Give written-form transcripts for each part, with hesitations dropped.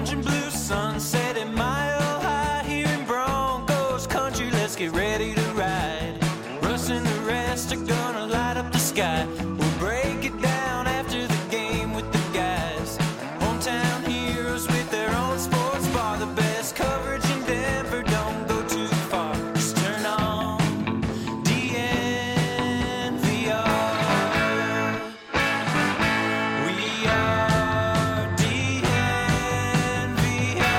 orange and blue sunset at Mile High here in Broncos country. Let's get ready to ride. Russ and the rest are gonna light up the sky. We'll break it down after the game with the guys. Hometown heroes with their own sports bar. The best coverage in Denver, don't go too far. Just turn on DNVR. We are DNVR.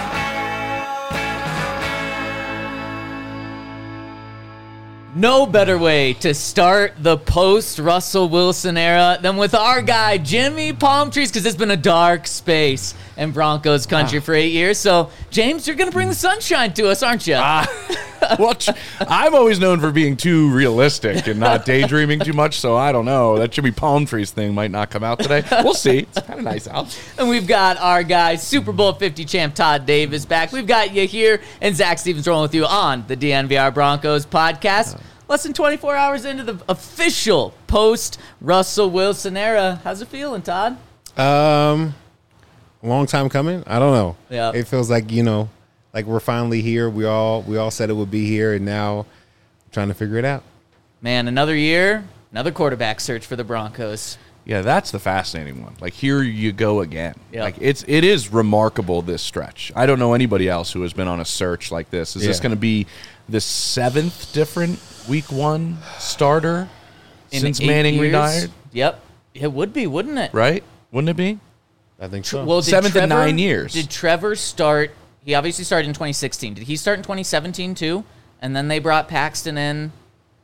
No better way to start the post-Russell Wilson era than with our guy, Jimmy Palmtrees, because it's been a dark space in Broncos country for 8 years. So, James, you're going to bring the sunshine to us, aren't you? Well, I'm always known for being too realistic and not daydreaming too much, so I don't know. That Jimmy Palmtrees thing might not come out today. We'll see. It's kind of nice out. And we've got our guy, Super Bowl 50 champ Todd Davis back. We've got you here, and Zach Stevens rolling with you on the DNVR Broncos podcast. Less than 24 hours into the official post-Russell Wilson era. How's it feeling, Todd? A long time coming. I don't know. Yeah. It feels like, like we're finally here. We all said it would be here, and now I'm trying to figure it out. Man, another year, another quarterback search for the Broncos. Yeah, that's the fascinating one. Like, here you go again. Yep. Like, it is remarkable, this stretch. I don't know anybody else who has been on a search like this. Is this going to be the 7th different week 1 starter since 8 Manning years? retired? Yep. It would be, wouldn't it? Right? Wouldn't it be? I think so. Well, did 7th in 9 years. Did Trevor start? He obviously started in 2016. Did he start in 2017 too? And then they brought Paxton in.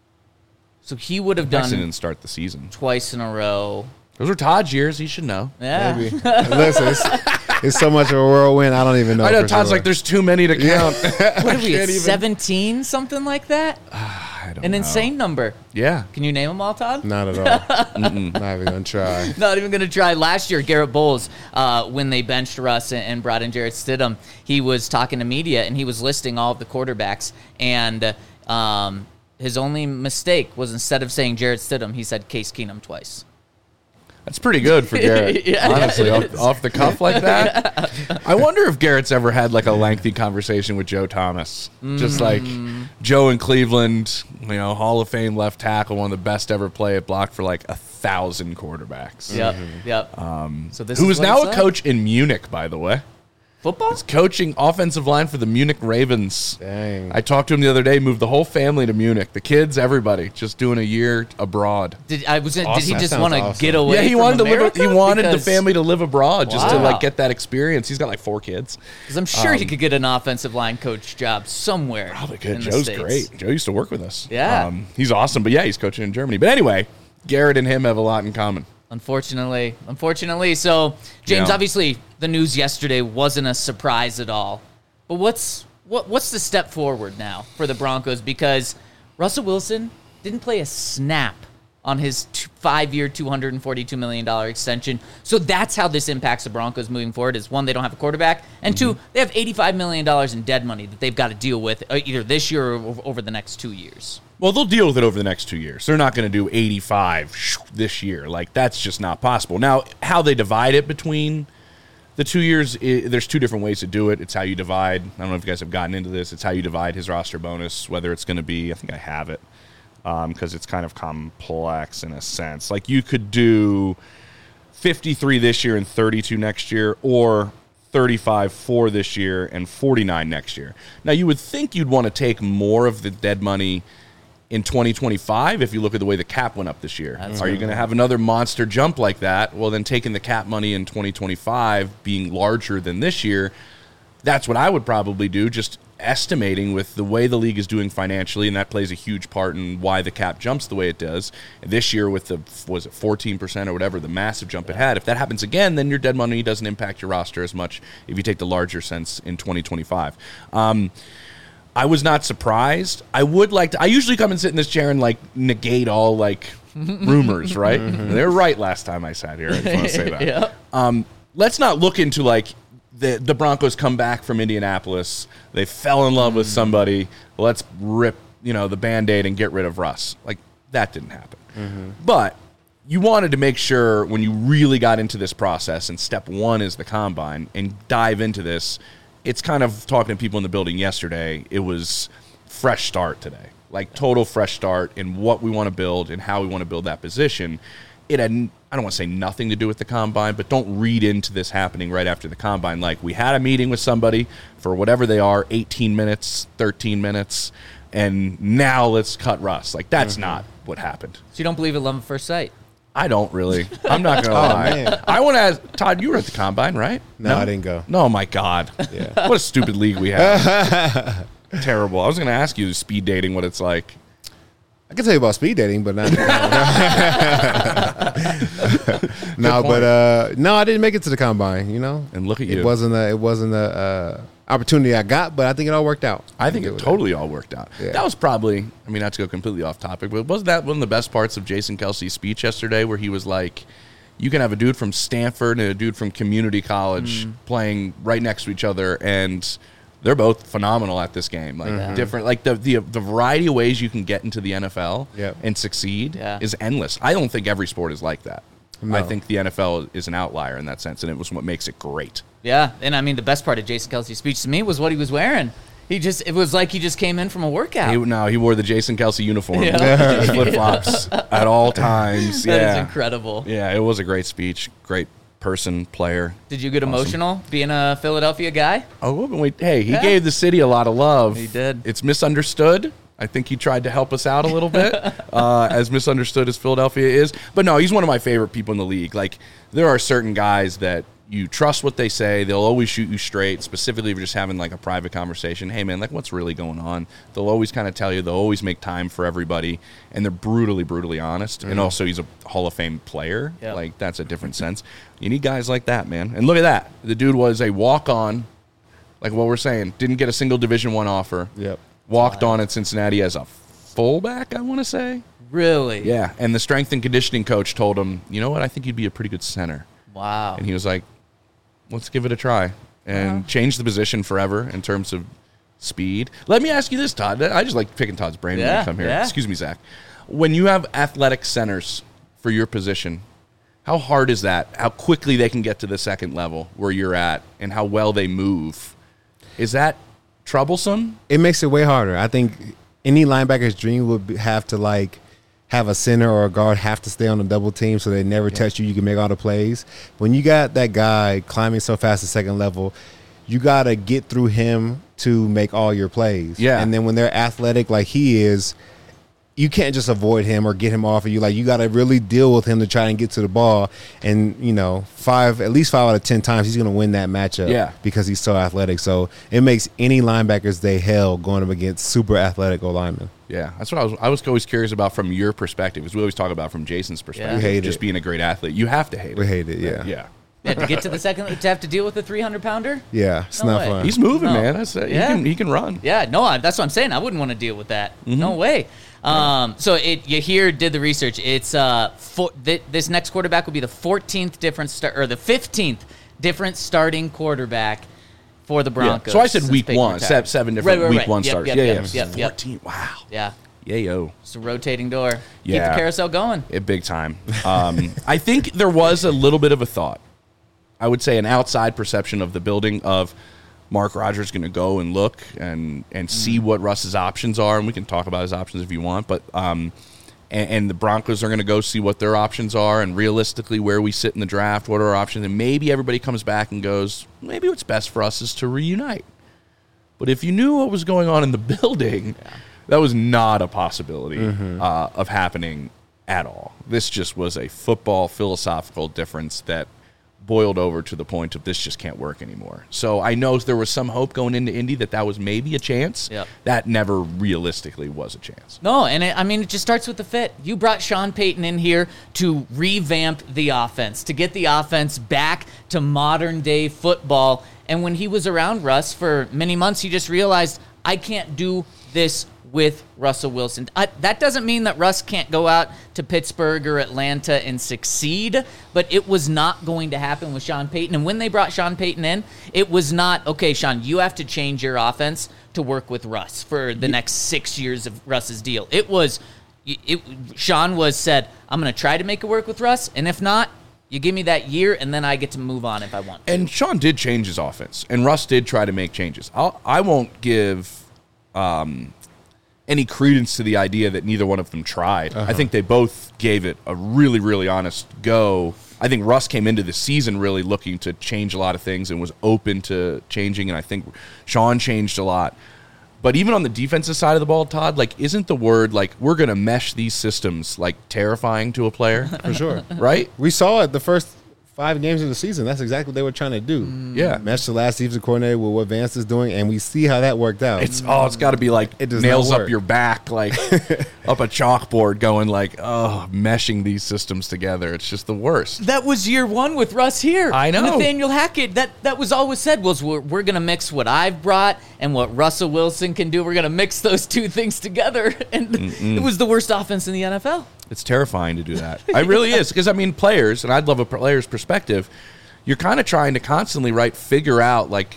So he would have Paxton done didn't start the season. twice in a row. Those were Todd's years. He should know. Yeah. Maybe. Listen, it's so much of a whirlwind. I don't even know. I know for Todd's sure. like, there's too many to count. What are we at, Can't even- 17? Something like that? I don't An know. insane number. Yeah. Can you name them all, Todd? Not at all. Not even gonna try. Not even going to try. Last year, Garrett Bowles, when they benched Russ and brought in Jarrett Stidham, he was talking to media, and he was listing all of the quarterbacks. And his only mistake was, instead of saying Jarrett Stidham, he said Case Keenum twice. That's pretty good for Garrett. Yeah, honestly, it off the cuff like that. I wonder if Garrett's ever had like a lengthy conversation with Joe Thomas. Just like Joe in Cleveland, Hall of Fame left tackle, one of the best ever play at block for like 1,000 quarterbacks. Yep. So this Who is is what now it's a like? coach in Munich, by the way. Football? He's coaching offensive line for the Munich Ravens. Dang. I talked to him the other day, moved the whole family to Munich. The kids, everybody, just doing a year abroad. Did he Awesome. just That want to sounds awesome. get away? Yeah, he from wanted to live. America? He wanted the Because- family to live abroad, just to Wow. like get that experience. He's got like 4 kids. Because I'm sure he could get an offensive line coach job somewhere. Probably in could. the Joe's States. great. Joe used to work with us. Yeah. He's awesome. But yeah, he's coaching in Germany. But anyway, Garrett and him have a lot in common. Unfortunately. So, James, Yeah. obviously, the news yesterday wasn't a surprise at all. But what's the step forward now for the Broncos? Because Russell Wilson didn't play a snap on his 5-year, $242 million extension. So that's how this impacts the Broncos moving forward is, 1, they don't have a quarterback, and 2, they have $85 million in dead money that they've got to deal with either this year or over the next 2 years. Well, they'll deal with it over the next 2 years. They're not going to do 85 this year. Like, that's just not possible. Now, how they divide it between the 2 years, there's 2 different ways to do it. It's how you divide. I don't know if you guys have gotten into this. It's how you divide his roster bonus, whether it's going to be, I think I have it, because it's kind of complex in a sense. Like, you could do 53 this year and 32 next year, or 35 for this year and 49 next year. Now, you would think you'd want to take more of the dead money in 2025 if you look at the way the cap went up this year. Are you going to have another monster jump like that? Well, then taking the cap money in 2025 being larger than this year, that's what I would probably do, just estimating with the way the league is doing financially, and that plays a huge part in why the cap jumps the way it does. And this year with the, was it 14% or whatever, the massive jump it had, if that happens again, then your dead money doesn't impact your roster as much if you take the larger sense in 2025. I was not surprised. I would like to, I usually come and sit in this chair and like negate all like rumors, right? They were right last time I sat here. I just want to say that. Yeah. Let's not look into like the Broncos come back from Indianapolis. They fell in love with somebody. Let's rip, the Band-Aid and get rid of Russ. Like, that didn't happen. But you wanted to make sure when you really got into this process, and step one is the combine, and dive into this, it's kind of talking to people in the building yesterday. It was fresh start today, like total fresh start in what we want to build and how we want to build that position. It had, I don't want to say nothing to do with the combine, but don't read into this happening right after the combine. Like, we had a meeting with somebody for whatever they are, 18 minutes, 13 minutes, and now let's cut Russ. Like, that's not what happened. So you don't believe in love at first sight? I don't really. I'm not going to lie. Man. I want to ask, Todd, you were at the combine, right? No, I didn't go. No, my God. Yeah. What a stupid league we have. Terrible. I was going to ask you speed dating, what it's like. I can tell you about speed dating, but not. No, but no, I didn't make it to the combine. You know, And look at you. It wasn't a opportunity I got, but I think it all worked out. I think it totally all worked out. Yeah. That was probably, I mean, not to go completely off topic, but wasn't that one of the best parts of Jason Kelsey's speech yesterday, where he was like, you can have a dude from Stanford and a dude from community college playing right next to each other, and they're both phenomenal at this game. Like, different, like the variety of ways you can get into the NFL Yep. and succeed Yeah. is endless. I don't think every sport is like that. No. I think the NFL is an outlier in that sense, and it was what makes it great. Yeah, and I mean, the best part of Jason Kelsey's speech to me was what he was wearing. It was like he just came in from a workout. He wore the Jason Kelsey uniform, Yeah. flip flops at all times. That Yeah, is incredible. Yeah, it was a great speech. Great person, player. Did you get emotional being a Philadelphia guy? Oh, wait, hey, he Yeah. gave the city a lot of love. He did. It's misunderstood. I think he tried to help us out a little bit, as misunderstood as Philadelphia is. But no, he's one of my favorite people in the league. Like, there are certain guys that you trust what they say. They'll always shoot you straight, specifically if you're just having like a private conversation. Hey, man, like, what's really going on? They'll always kind of tell you. They'll always make time for everybody, and they're brutally, brutally honest. And also, he's a Hall of Fame player. Yep. Like, that's a different sense. You need guys like that, man. And look at that. The dude was a walk-on, like what we're saying. Didn't get a single Division I offer. Yep. Walked on at Cincinnati as a fullback, I want to say. Really? Yeah, and the strength and conditioning coach told him, you know what, I think you'd be a pretty good center. Wow. And he was like, let's give it a try. And changed the position forever in terms of speed. Let me ask you this, Todd. I just like picking Todd's brain when Yeah, I come here. yeah. Excuse me, Zach. When you have athletic centers for your position, how hard is that? How quickly they can get to the second level where you're at, and how well they move? Is that troublesome? It makes it way harder. I think any linebacker's dream would have to like have a center or a guard have to stay on the double team so they never touch you. You can make all the plays. When you got that guy climbing so fast to second level, you got to get through him to make all your plays. Yeah. And then when they're athletic like he is, you can't just avoid him or get him off of you. Like, you got to really deal with him to try and get to the ball. And, you know, at least 5 out of 10 times he's going to win that matchup. Yeah. Because he's so athletic. So it makes any linebacker's day hell going up against super athletic O-linemen. Yeah, that's what I was always curious about from your perspective, because we always talk about from Jason's perspective. We hate just it. being a great athlete. You have to hate it. We hate it, yeah. Yeah. Yeah, to get to the second, to have to deal with a 300-pounder? Yeah, it's No not way. fun. He's moving, No. man. That's it. Yeah. He can run. Yeah, no, that's what I'm saying. I wouldn't want to deal with that. No way. So you here did the research. It's this next quarterback will be the 14th different or the 15th different starting quarterback for the Yeah. Broncos. So I said since week Peyton one, retired. seven different Right, week right. one Yep, starters. yep, Yeah. yep, yep. 14. Wow. Yeah, Yayo. it's a rotating door. Keep Yeah. the carousel going. Big time. I think there was a little bit of a thought. I would say an outside perception of the building of Mark Rodgers going to go and look and see what Russ's options are, and we can talk about his options if you want, but and the Broncos are going to go see what their options are, and realistically where we sit in the draft, what are our options, and maybe everybody comes back and goes, maybe what's best for us is to reunite. But if you knew what was going on in the building, that was not a possibility of happening at all. This just was a football philosophical difference that boiled over to the point of this just can't work anymore. So I know there was some hope going into Indy that was maybe a chance. Yep. That never realistically was a chance. No, and it just starts with the fit. You brought Sean Payton in here to revamp the offense, to get the offense back to modern day football. And when he was around Russ for many months, he just realized, I can't do this with Russell Wilson. That doesn't mean that Russ can't go out to Pittsburgh or Atlanta and succeed, but it was not going to happen with Sean Payton. And when they brought Sean Payton in, it was not, okay, Sean, you have to change your offense to work with Russ for the next 6 years of Russ's deal. It was, Sean said, I'm going to try to make it work with Russ, and if not, you give me that year, and then I get to move on if I want to. And Sean did change his offense, and Russ did try to make changes. I won't give any credence to the idea that neither one of them tried. I think they both gave it a really, really honest go. I think Russ came into the season really looking to change a lot of things and was open to changing, and I think Sean changed a lot. But even on the defensive side of the ball, Todd, like, isn't the word, like, we're going to mesh these systems, like, terrifying to a player? For sure. Right? We saw it the first 5 games of the season. That's exactly what they were trying to do. Yeah. Mesh the last defensive coordinator with what Vance is doing, and we see how that worked out. It's got to be like It does nails not up work. your back, like up a chalkboard, going like, oh, meshing these systems together. It's just the worst. That was year 1 with Russ here. I know. Nathaniel Hackett, that was always said was we're going to mix what I've brought and what Russell Wilson can do. We're going to mix those two things together. And it was the worst offense in the NFL. It's terrifying to do that. It really is. Because, I mean, players, and I'd love a player's perspective, you're kind of trying to constantly, figure out, like,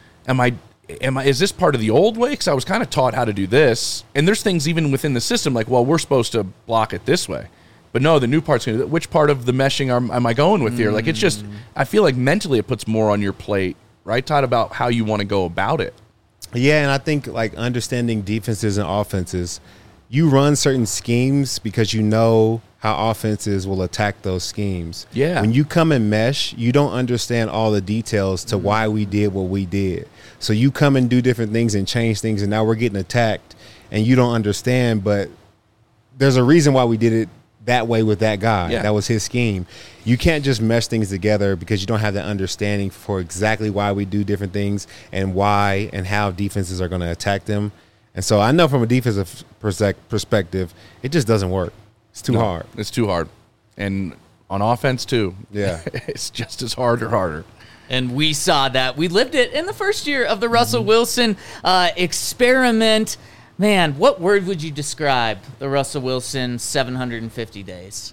is this part of the old way? Because I was kind of taught how to do this. And there's things even within the system, like, well, we're supposed to block it this way. But no, the new part's going to, which part of the meshing am I going with here? Like, it's just, I feel like mentally it puts more on your plate, right, Todd, about how you want to go about it. Yeah, and I think, like, understanding defenses and offenses, you run certain schemes because you know how offenses will attack those schemes. Yeah. When you come and mesh, you don't understand all the details to why we did what we did. So you come and do different things and change things, and now we're getting attacked, and you don't understand, but there's a reason why we did it that way with that guy. Yeah. That was his scheme. You can't just mesh things together because you don't have that understanding for exactly why we do different things and why and how defenses are going to attack them. And so I know from a defensive perspective, it just doesn't work. It's too hard. It's too hard. And on offense, too. Yeah. It's just as hard or harder. And we saw that. We lived it in the first year of the Russell Wilson experiment. Man, what word would you describe the Russell Wilson 750 days?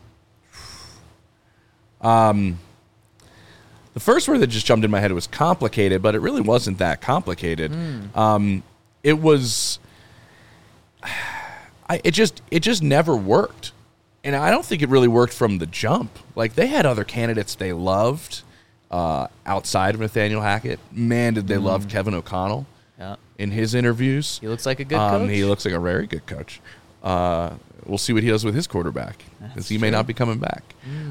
The first word that just jumped in my head was complicated, but it really wasn't that complicated. It was... It just never worked. And I don't think it really worked from the jump. Like, they had other candidates they loved outside of Nathaniel Hackett. Man, did they love Kevin O'Connell in his interviews. He looks like a good coach. He looks like a very good coach. We'll see what he does with his quarterback, because he may not be coming back.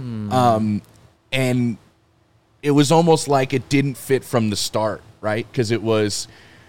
And it was almost like it didn't fit from the start, right? Because it was...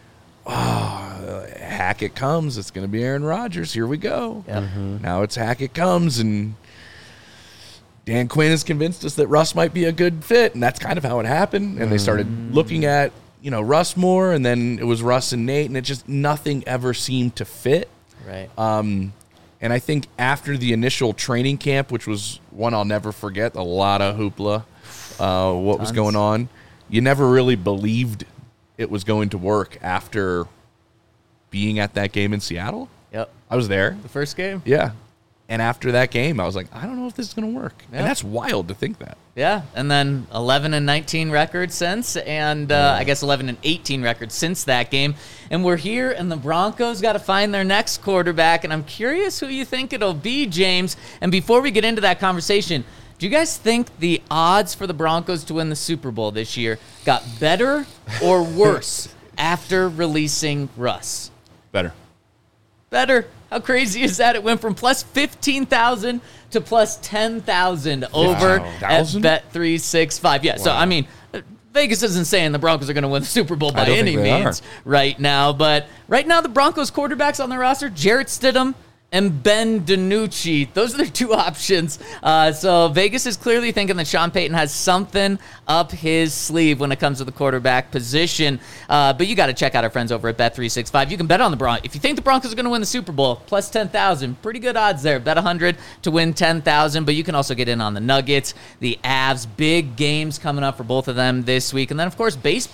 Hackett comes, it's going to be Aaron Rodgers. Here we go. Yep. Now it's Hackett comes, and Dan Quinn has convinced us that Russ might be a good fit, and that's kind of how it happened. And they started looking at, Russ more, and then it was Russ and Nate, and it just nothing ever seemed to fit. Right. And I think after the initial training camp, which was one I'll never forget, a lot of hoopla, what was going on, you never really believed it was going to work after being at that game in Seattle. Yep. I was there. The first game? Yeah. And after that game, I was like, I don't know if this is going to work. Yeah. And that's wild to think that. Yeah. And then 11-19 record since, and I guess 11-18 record since that game. And we're here, and the Broncos got to find their next quarterback, and I'm curious who you think it'll be, James. And before we get into that conversation, do you guys think the odds for the Broncos to win the Super Bowl this year got better or worse after releasing Russ? Better. How crazy is that? It went from plus 15,000 to plus 10,000 over at Bet365. Yeah, so I mean, Vegas isn't saying the Broncos are going to win the Super Bowl by any means right now, but right now the Broncos quarterbacks on their roster, Jarrett Stidham and Ben DiNucci. Those are their two options. So Vegas is clearly thinking that Sean Payton has something up his sleeve when it comes to the quarterback position. But you got to check out our friends over at Bet365. You can bet on the Broncos. If you think the Broncos are going to win the Super Bowl, plus 10,000. Pretty good odds there. Bet 100 to win 10,000. But you can also get in on the Nuggets, the Avs. Big games coming up for both of them this week. And then, of course, baseball.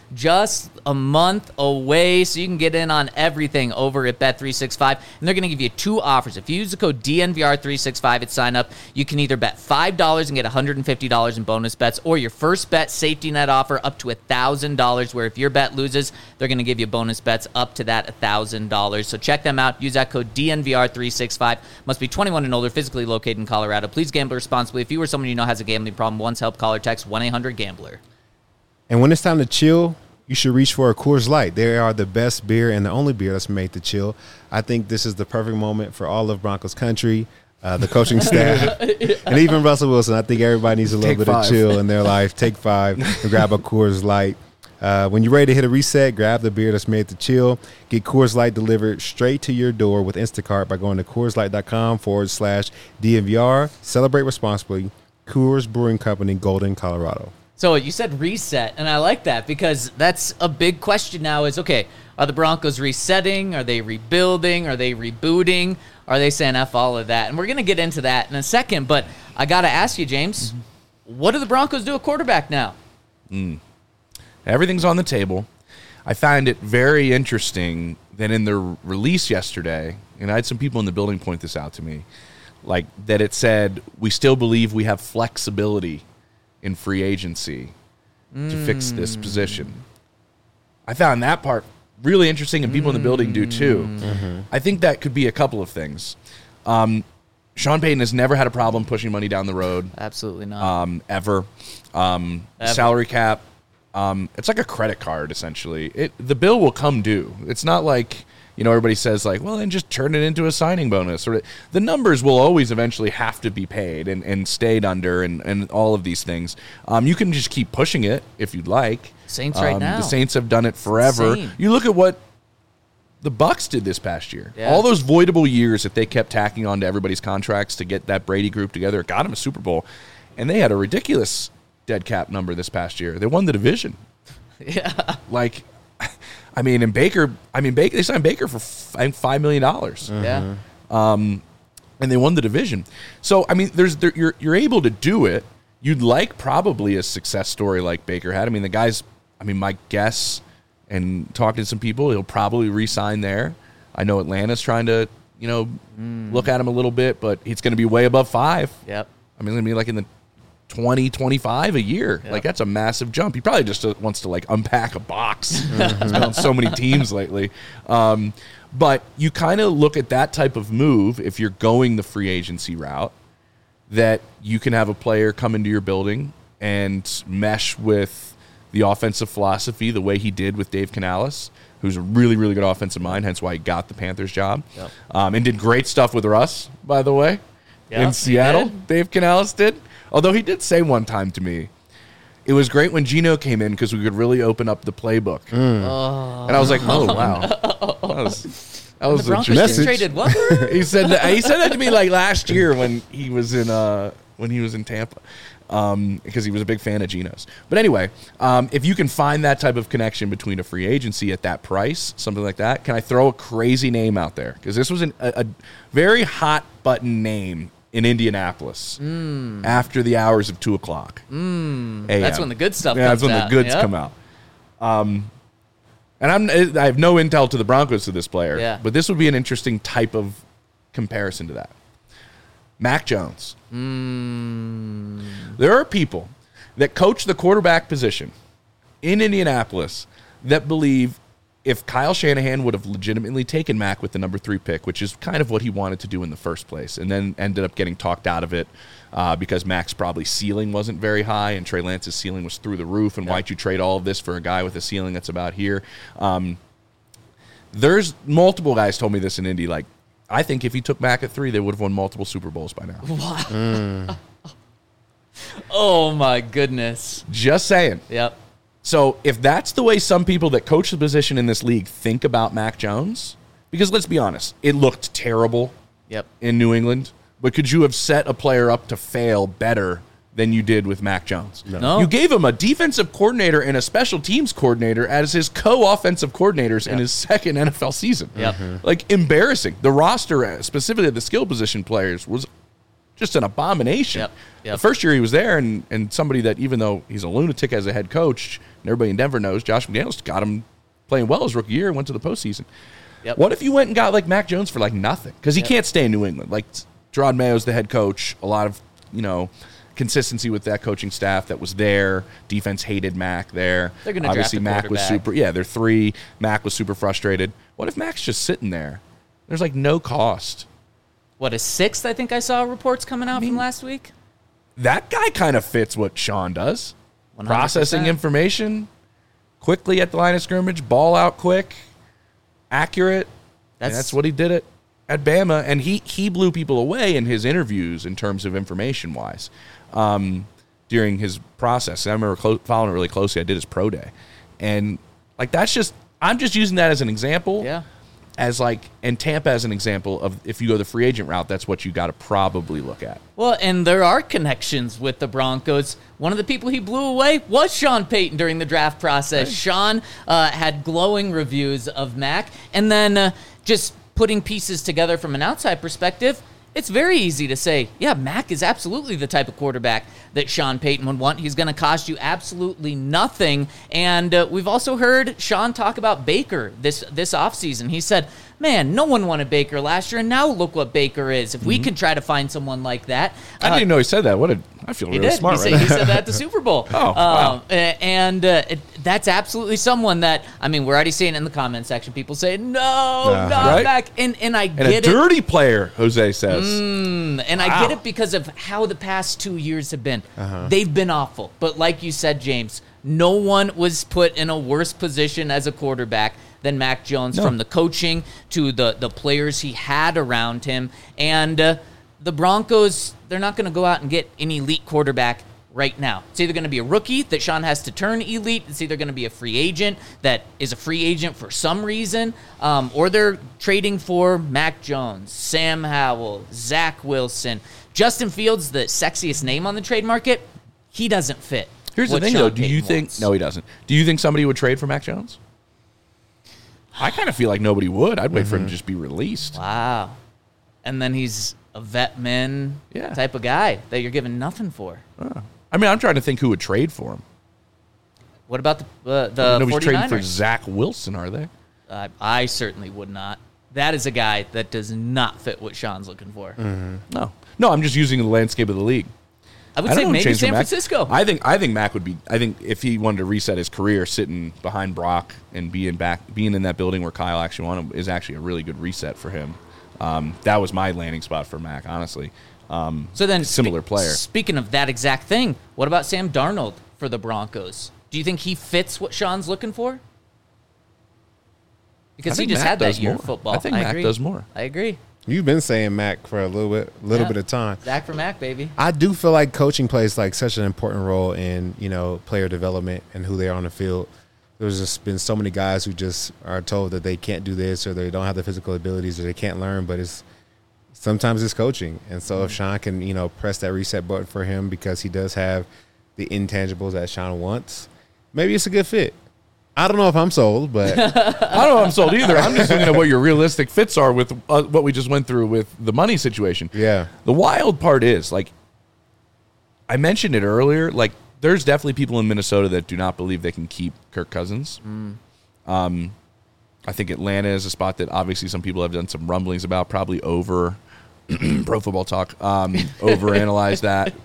just a month away, so you can get in on everything over at Bet365. And they're going to give you 2 offers. If you use the code DNVR365 at sign up, you can either bet $5 and get $150 in bonus bets, or your first bet safety net offer up to $1,000, where if your bet loses, they're going to give you bonus bets up to that $1,000. So check them out. Use that code DNVR365. Must be 21 and older, physically located in Colorado. Please gamble responsibly. If you or someone you know has a gambling problem, once help, call or text 1-800-GAMBLER. And when it's time to chill, you should reach for a Coors Light. They are the best beer and the only beer that's made to chill. I think this is the perfect moment for all of Broncos country, the coaching staff, and even Russell Wilson. I think everybody needs a little bit of chill in their life. Take 5 and grab a Coors Light. When you're ready to hit a reset, grab the beer that's made to chill. Get Coors Light delivered straight to your door with Instacart by going to CoorsLight.com/DNVR. Celebrate responsibly. Coors Brewing Company, Golden, Colorado. So you said reset, and I like that because that's a big question now is, okay, are the Broncos resetting? Are they rebuilding? Are they rebooting? Are they saying F all of that? And we're going to get into that in a second, but I got to ask you, James, what do the Broncos do at quarterback now? Everything's on the table. I find it very interesting that in the release yesterday, and I had some people in the building point this out to me, like that it said, we still believe we have flexibility in free agency to fix this position. I found that part really interesting, and people in the building do too. I think that could be a couple of things. Sean Payton has never had a problem pushing money down the road. Absolutely not. Ever. Salary cap. It's like a credit card, essentially. The bill will come due. It's not like, everybody says like, well, then just turn it into a signing bonus. Or the numbers will always eventually have to be paid and stayed under and all of these things. You can just keep pushing it if you'd like. Saints right now. The Saints have done it forever. You look at what the Bucs did this past year. Yeah. All those voidable years that they kept tacking onto everybody's contracts to get that Brady group together, it got them a Super Bowl. And they had a ridiculous dead cap number this past year. They won the division. Yeah. Baker, they signed Baker for $5 million. Yeah. And they won the division. So, you're able to do it. You'd like probably a success story like Baker had. The guy's, my guess, and talking to some people, he'll probably re-sign there. I know Atlanta's trying to, look at him a little bit, but it's going to be way above 5. Yep. It's going to be like in the 20, 25 a year. Yep. Like, that's a massive jump. He probably just wants to, unpack a box. He's been on so many teams lately. But you kind of look at that type of move, if you're going the free agency route, that you can have a player come into your building and mesh with the offensive philosophy the way he did with Dave Canales, who's a really, really good offensive mind, hence why he got the Panthers job. Yep. And did great stuff with Russ, by the way, in Seattle. Dave Canales did. Although he did say one time to me, it was great when Geno came in because we could really open up the playbook. And I was like, oh, wow. That was the Broncos just traded what? he said that to me like last year when he was in Tampa, because he was a big fan of Geno's. But anyway, if you can find that type of connection between a free agency at that price, something like that, can I throw a crazy name out there? Because this was a very hot button name in Indianapolis after the hours of 2:00 a.m. That's when the good stuff comes out. Yeah, that's when the goods come out. And I have no intel to the Broncos to this player, but this would be an interesting type of comparison to that. Mac Jones. There are people that coach the quarterback position in Indianapolis that believe if Kyle Shanahan would have legitimately taken Mac with the number 3 pick, which is kind of what he wanted to do in the first place, and then ended up getting talked out of it because Mac's probably ceiling wasn't very high and Trey Lance's ceiling was through the roof, and why'd you trade all of this for a guy with a ceiling that's about here? There's multiple guys told me this in Indy, like, I think if he took Mac at 3, they would have won multiple Super Bowls by now. Wow. Oh, my goodness. Just saying. Yep. So if that's the way some people that coach the position in this league think about Mac Jones, because let's be honest, it looked terrible in New England, but could you have set a player up to fail better than you did with Mac Jones? No. You gave him a defensive coordinator and a special teams coordinator as his co-offensive coordinators in his second NFL season. Like, embarrassing. The roster, specifically the skill position players, was just an abomination. The first year he was there, and somebody that, even though he's a lunatic as a head coach, And everybody in Denver knows Josh McDaniels got him playing well his rookie year and went to the postseason. Yep. What if you went and got like Mac Jones for like nothing? Because he can't stay in New England. Like Gerard Mayo's the head coach. A lot of, consistency with that coaching staff that was there. Defense hated Mac there. They're going to Obviously, draft a Mac was quarterback. they're 3. Mac was super frustrated. What if Mac's just sitting there? There's like no cost. What, a 6th? I think I saw reports coming out from last week. That guy kind of fits what Sean does. 100%. Processing information quickly at the line of scrimmage, ball out quick, accurate. That's what he did at Bama, and he blew people away in his interviews in terms of information-wise during his process. And I remember following it really closely. I did his pro day. And, I'm just using that as an example. Yeah. And Tampa as an example of if you go the free agent route, that's what you got to probably look at. Well, and there are connections with the Broncos. One of the people he blew away was Sean Payton during the draft process. Right. Sean had glowing reviews of Mac. And then just putting pieces together from an outside perspective, it's very easy to say, yeah, Mac is absolutely the type of quarterback that Sean Payton would want. He's going to cost you absolutely nothing. And we've also heard Sean talk about Baker this offseason. He said, man, no one wanted Baker last year, and now look what Baker is. If we can try to find someone like that. I didn't even know he said that. I feel really smart right now. He said that at the Super Bowl. Wow. That's absolutely someone that, we're already seeing it in the comment section. People say, not right? back. And I get it. And a dirty player, Jose says. I get it because of how the past 2 years have been. They've been awful. But like you said, James, no one was put in a worse position as a quarterback than Mac Jones, from the coaching to the players he had around him. And the Broncos, they're not going to go out and get an elite quarterback right now. It's either going to be a rookie that Sean has to turn elite. It's either going to be a free agent that is a free agent for some reason, or they're trading for Mac Jones, Sam Howell, Zach Wilson. Justin Fields, the sexiest name on the trade market, he doesn't fit. Here's the thing, though. Do you think... wants. No, he doesn't. Do you think somebody would trade for Mac Jones? I kind of feel like nobody would. I'd wait for him to just be released. Wow. And then he's a vet men type of guy that you're giving nothing for. I'm trying to think who would trade for him. What about the Nobody's 49ers? trading for Zach Wilson, are they? I certainly would not. That is a guy that does not fit what Sean's looking for. No, I'm just using the landscape of the league. I would say maybe San Francisco. I think Mac would be. I think if he wanted to reset his career, sitting behind Brock and being in that building where Kyle actually wanted him is actually a really good reset for him. That was my landing spot for Mac, honestly. So then, similar player. Speaking of that exact thing, what about Sam Darnold for the Broncos? Do you think he fits what Sean's looking for? Because he just Mac had that year more. of football. I think Mac does more. I agree. You've been saying Mac for a little bit of time. Zach for Mac, baby. I do feel like coaching plays like such an important role in, player development and who they are on the field. There's just been so many guys who just are told that they can't do this or they don't have the physical abilities or they can't learn, but sometimes it's coaching. And so if Sean can, press that reset button for him because he does have the intangibles that Sean wants, maybe it's a good fit. I don't know if I'm sold, but I don't know if I'm sold either. I'm just looking at what your realistic fits are with what we just went through with the money situation. Yeah. The wild part is, I mentioned it earlier, there's definitely people in Minnesota that do not believe they can keep Kirk Cousins. I think Atlanta is a spot that obviously some people have done some rumblings about, probably over Pro Football Talk, overanalyze that.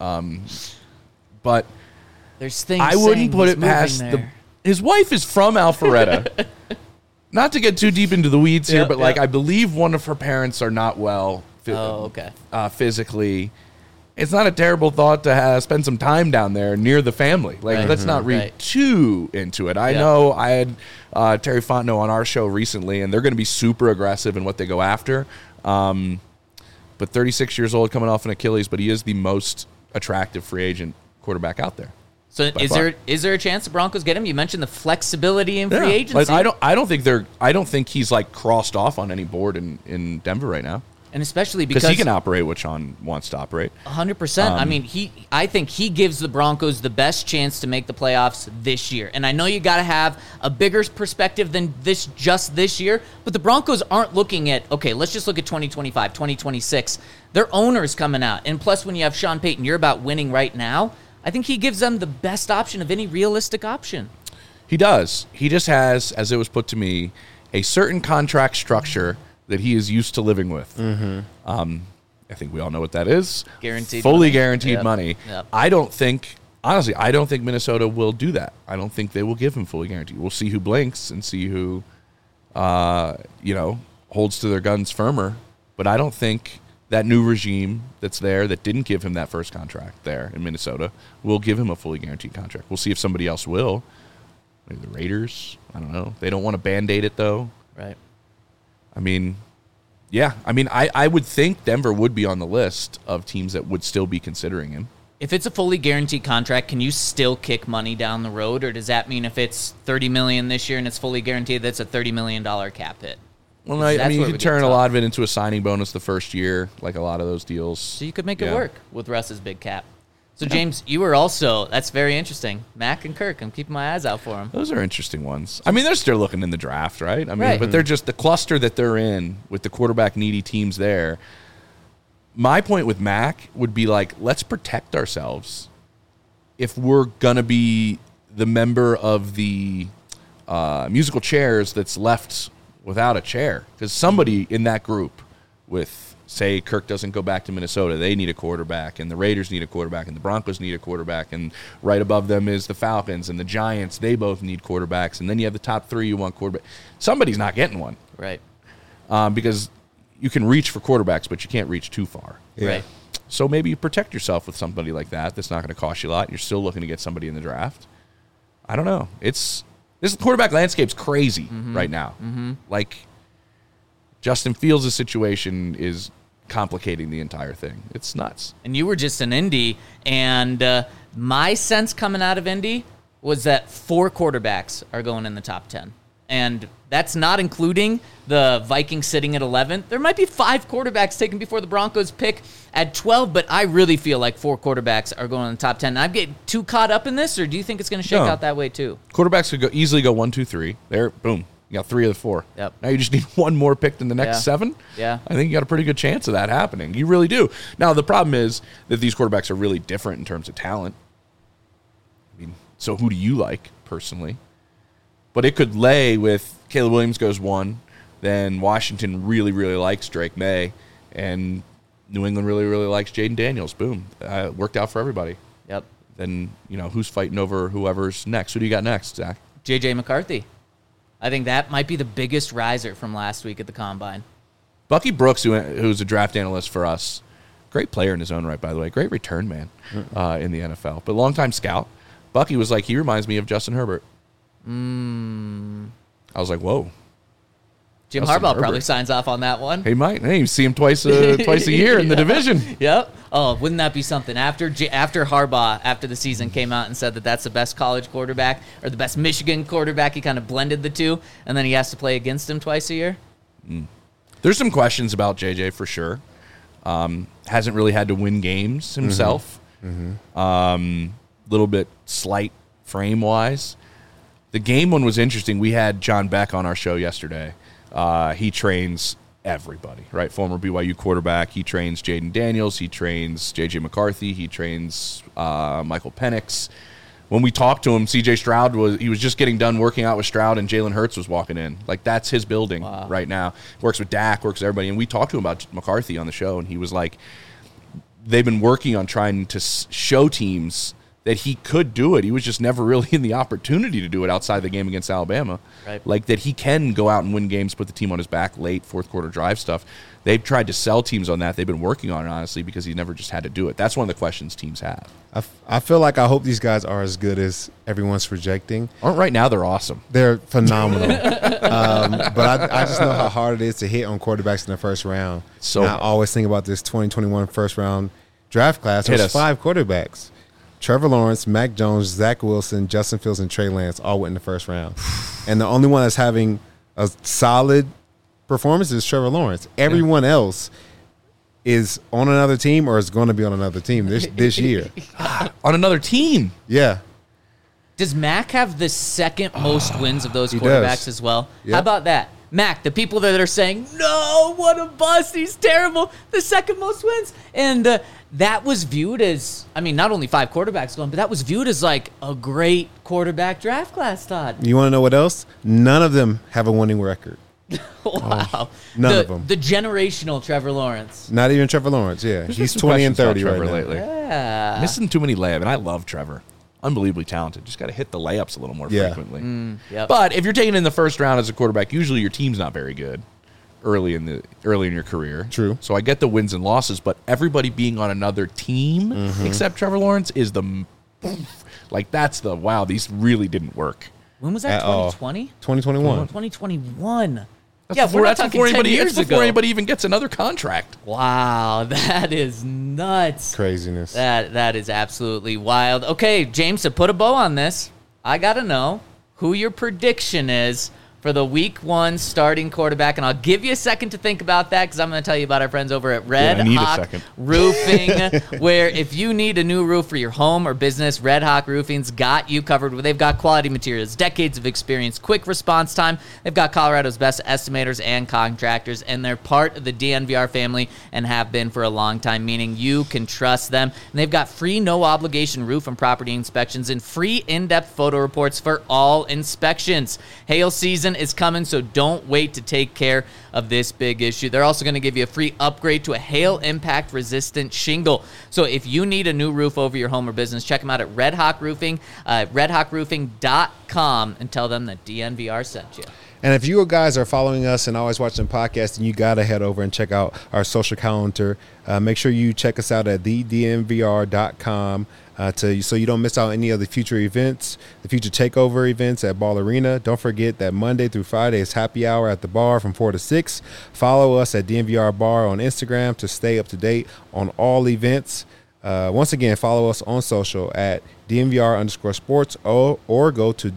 But there's things I wouldn't put it past his wife is from Alpharetta. Not to get too deep into the weeds here, but I believe one of her parents are not well physically. It's not a terrible thought to spend some time down there near the family. Let's not read too into it. I know I had Terry Fontenot on our show recently, and they're going to be super aggressive in what they go after. But 36 years old, coming off an Achilles, but he is the most attractive free agent quarterback out there. So is there a chance the Broncos get him? You mentioned the flexibility in free agency. I don't think he's crossed off on any board in Denver right now. And especially because he can operate what Sean wants to operate. 100%. I think he gives the Broncos the best chance to make the playoffs this year. And I know you got to have a bigger perspective than this year, but the Broncos aren't looking at, okay, let's just look at 2025, 2026. Their owner's coming out. And plus, when you have Sean Payton, you're about winning right now. I think he gives them the best option of any realistic option. He does. He just has, as it was put to me, a certain contract structure that he is used to living with. I think we all know what that is. Guaranteed Fully money. guaranteed Yep. money. Yep. I don't think Minnesota will do that. I don't think they will give him fully guaranteed. We'll see who blinks and see who, holds to their guns firmer. But I don't think that new regime that's there that didn't give him that first contract there in Minnesota will give him a fully guaranteed contract. We'll see if somebody else will. Maybe the Raiders. I don't know. They don't want to Band-Aid it, though. Right. I mean, yeah. I mean, I would think Denver would be on the list of teams that would still be considering him. If it's a fully guaranteed contract, can you still kick money down the road, or does that mean if it's $30 million this year and it's fully guaranteed, that's a $30 million cap hit? Well, I mean, you where could we get turn a tough. lot of it into a signing bonus the first year, like a lot of those deals. So you could make Yeah. it work with Russ's big cap. So, James, you were also, that's very interesting. Mac and Kirk, I'm keeping my eyes out for them. Those are interesting ones. I mean, they're still looking in the draft, right? I mean, Right. but they're just the cluster that they're in with the quarterback needy teams there. My point with Mac would be like, let's protect ourselves. If we're going to be the member of the musical chairs that's left without a chair, because somebody in that group with, say, Kirk doesn't go back to Minnesota, they need a quarterback, and the Raiders need a quarterback, and the Broncos need a quarterback, and right above them is the Falcons and the Giants. They both need quarterbacks, and then you have the top three you want quarterback. Somebody's not getting one Right. because you can reach for quarterbacks, but you can't reach too far. Right. So maybe you protect yourself with somebody like that that's not going to cost you a lot. You're still looking to get somebody in the draft. I don't know. This quarterback landscape's crazy right now. Like, Justin Fields' situation is complicating the entire thing. It's nuts. And you were just in Indy, and my sense coming out of Indy was that 4 quarterbacks are going in the top 10. And that's not including the Vikings sitting at 11. There might be 5 quarterbacks taken before the Broncos pick at 12, but I really feel like 4 quarterbacks are going in the top 10. I'm getting too caught up in this, or do you think it's going to shake No. out that way too? Quarterbacks could easily go 1, 2, 3. There, boom. You got 3 of the 4. Yep. Now you just need one more pick in the next Yeah. 7. Yeah. I think you got a pretty good chance of that happening. You really do. Now, the problem is that these quarterbacks are really different in terms of talent. I mean, so who do you like personally? But it could lay with Caleb Williams goes 1, then Washington really, really likes Drake May, and New England really, really likes Jaden Daniels. Boom. Worked out for everybody. Yep. Then, who's fighting over whoever's next? Who do you got next, Zach? J.J. McCarthy. I think that might be the biggest riser from last week at the Combine. Bucky Brooks, who's a draft analyst for us, great player in his own right, by the way, great return man in the NFL, but longtime scout. Bucky was like, he reminds me of Justin Herbert. I was like, whoa. Jim Justin Harbaugh Herbert. probably signs off on that one. He might. Hey, you see him twice a year in the division. Yep. Oh, wouldn't that be something? After Harbaugh, after the season came out and said that that's the best college quarterback or the best Michigan quarterback, he kind of blended the two, and then he has to play against him twice a year. There's some questions about JJ for sure. Hasn't really had to win games himself. Little bit slight frame-wise. The game one was interesting. We had John Beck on our show yesterday. He trains everybody, right? Former BYU quarterback. He trains Jaden Daniels. He trains J.J. McCarthy. He trains Michael Penix. When we talked to him, C.J. Stroud was just getting done working out with Stroud, and Jalen Hurts was walking in. Like, that's his building right now. Works with Dak, works with everybody. And we talked to him about McCarthy on the show, and he was like, they've been working on trying to show teams that he could do it. He was just never really in the opportunity to do it outside the game against Alabama. Right. Like, that he can go out and win games, put the team on his back late, fourth quarter drive stuff. They've tried to sell teams on that. They've been working on it, honestly, because he never just had to do it. That's one of the questions teams have. I feel like I hope these guys are as good as everyone's projecting. Right now, they're awesome. They're phenomenal. But I just know how hard it is to hit on quarterbacks in the first round. So And I always think about this 2021 first round draft class. Hit There's us. 5 quarterbacks. Trevor Lawrence, Mac Jones, Zach Wilson, Justin Fields, and Trey Lance all went in the first round. And the only one that's having a solid performance is Trevor Lawrence. Everyone else is on another team or is going to be on another team this year. On another team. Yeah. Does Mac have the second most wins of those He quarterbacks does. as well? Yep. How about that? Mac, the people that are saying, no, what a bust, he's terrible, the second most wins. And that was viewed as, I mean, not only 5 quarterbacks going, but that was viewed as like a great quarterback draft class, Todd. You want to know what else? None of them have a winning record. Wow. None of them. The generational Trevor Lawrence. Not even Trevor Lawrence, yeah. There's He's been some 20 and questions 30 about right Trevor now. lately. Yeah. Missing too many layups, and I love Trevor. Unbelievably talented. Just got to hit the layups a little more Yeah. frequently. Yep. But if you're taking in the first round as a quarterback, usually your team's not very good early in your career. True. So I get the wins and losses, but everybody being on another team except Trevor Lawrence is that's the wow. These really didn't work. When was that, At all. 2020? 2021. 2021. That's we're not that's talking before 10 anybody. years That's before ago. anybody even gets another contract. Wow, that is nuts. Craziness. That is absolutely wild. Okay, James, to put a bow on this, I got to know who your prediction is for the week 1 starting quarterback, and I'll give you a second to think about that because I'm going to tell you about our friends over at Red I need a Hawk second. Roofing, where if you need a new roof for your home or business, Red Hawk Roofing's got you covered. They've got quality materials, decades of experience, quick response time. They've got Colorado's best estimators and contractors, and they're part of the DNVR family and have been for a long time, meaning you can trust them. And they've got free no-obligation roof and property inspections and free in-depth photo reports for all inspections. Hail season is coming, so don't wait to take care of this big issue. They're also going to give you a free upgrade to a hail impact resistant shingle. So if you need a new roof over your home or business, check them out at Red Hawk Roofing, redhawkroofing.com, and tell them that DNVR sent you. And if you guys are following us and always watching podcasts, then you got to head over and check out our social calendar. Make sure you check us out at thednvr.com so you don't miss out any of the future events, the future takeover events at Ball Arena. Don't forget that Monday through Friday is happy hour at the bar from 4 to 6. Follow us at DNVR Bar on Instagram to stay up to date on all events. Once again, follow us on social at DNVR_sports or go to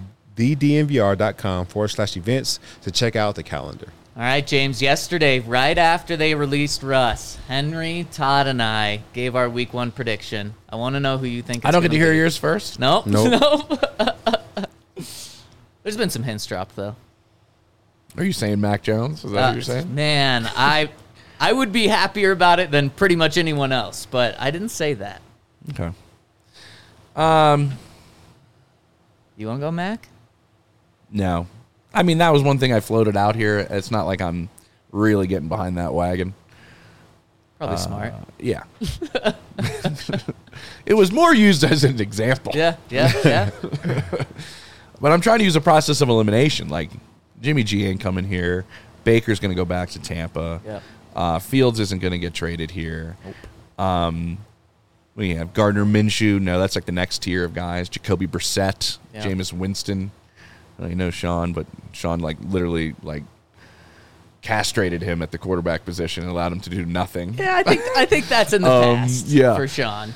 thednvr.com/events to check out the calendar. All right, James, yesterday, right after they released Russ, Henry, Todd, and I gave our week 1 prediction. I want to know who you think it's I don't get to gonna hear be. yours first. Nope. Nope. Nope. There's been some hints dropped, though. Are you saying Mac Jones? Is that what you're saying? Man, I would be happier about it than pretty much anyone else, but I didn't say that. Okay. You want to go, Mac? No. I mean, that was one thing I floated out here. It's not like I'm really getting behind that wagon. Probably smart. Yeah. It was more used as an example. Yeah. But I'm trying to use a process of elimination. Like, Jimmy G ain't coming here. Baker's going to go back to Tampa. Yep. Fields isn't going to get traded here. We have Gardner Minshew. No, that's like the next tier of guys. Jacoby Brissett, Yep. Jameis Winston. I know Sean, but Sean literally castrated him at the quarterback position and allowed him to do nothing. Yeah, I think that's in the past yeah. for Sean.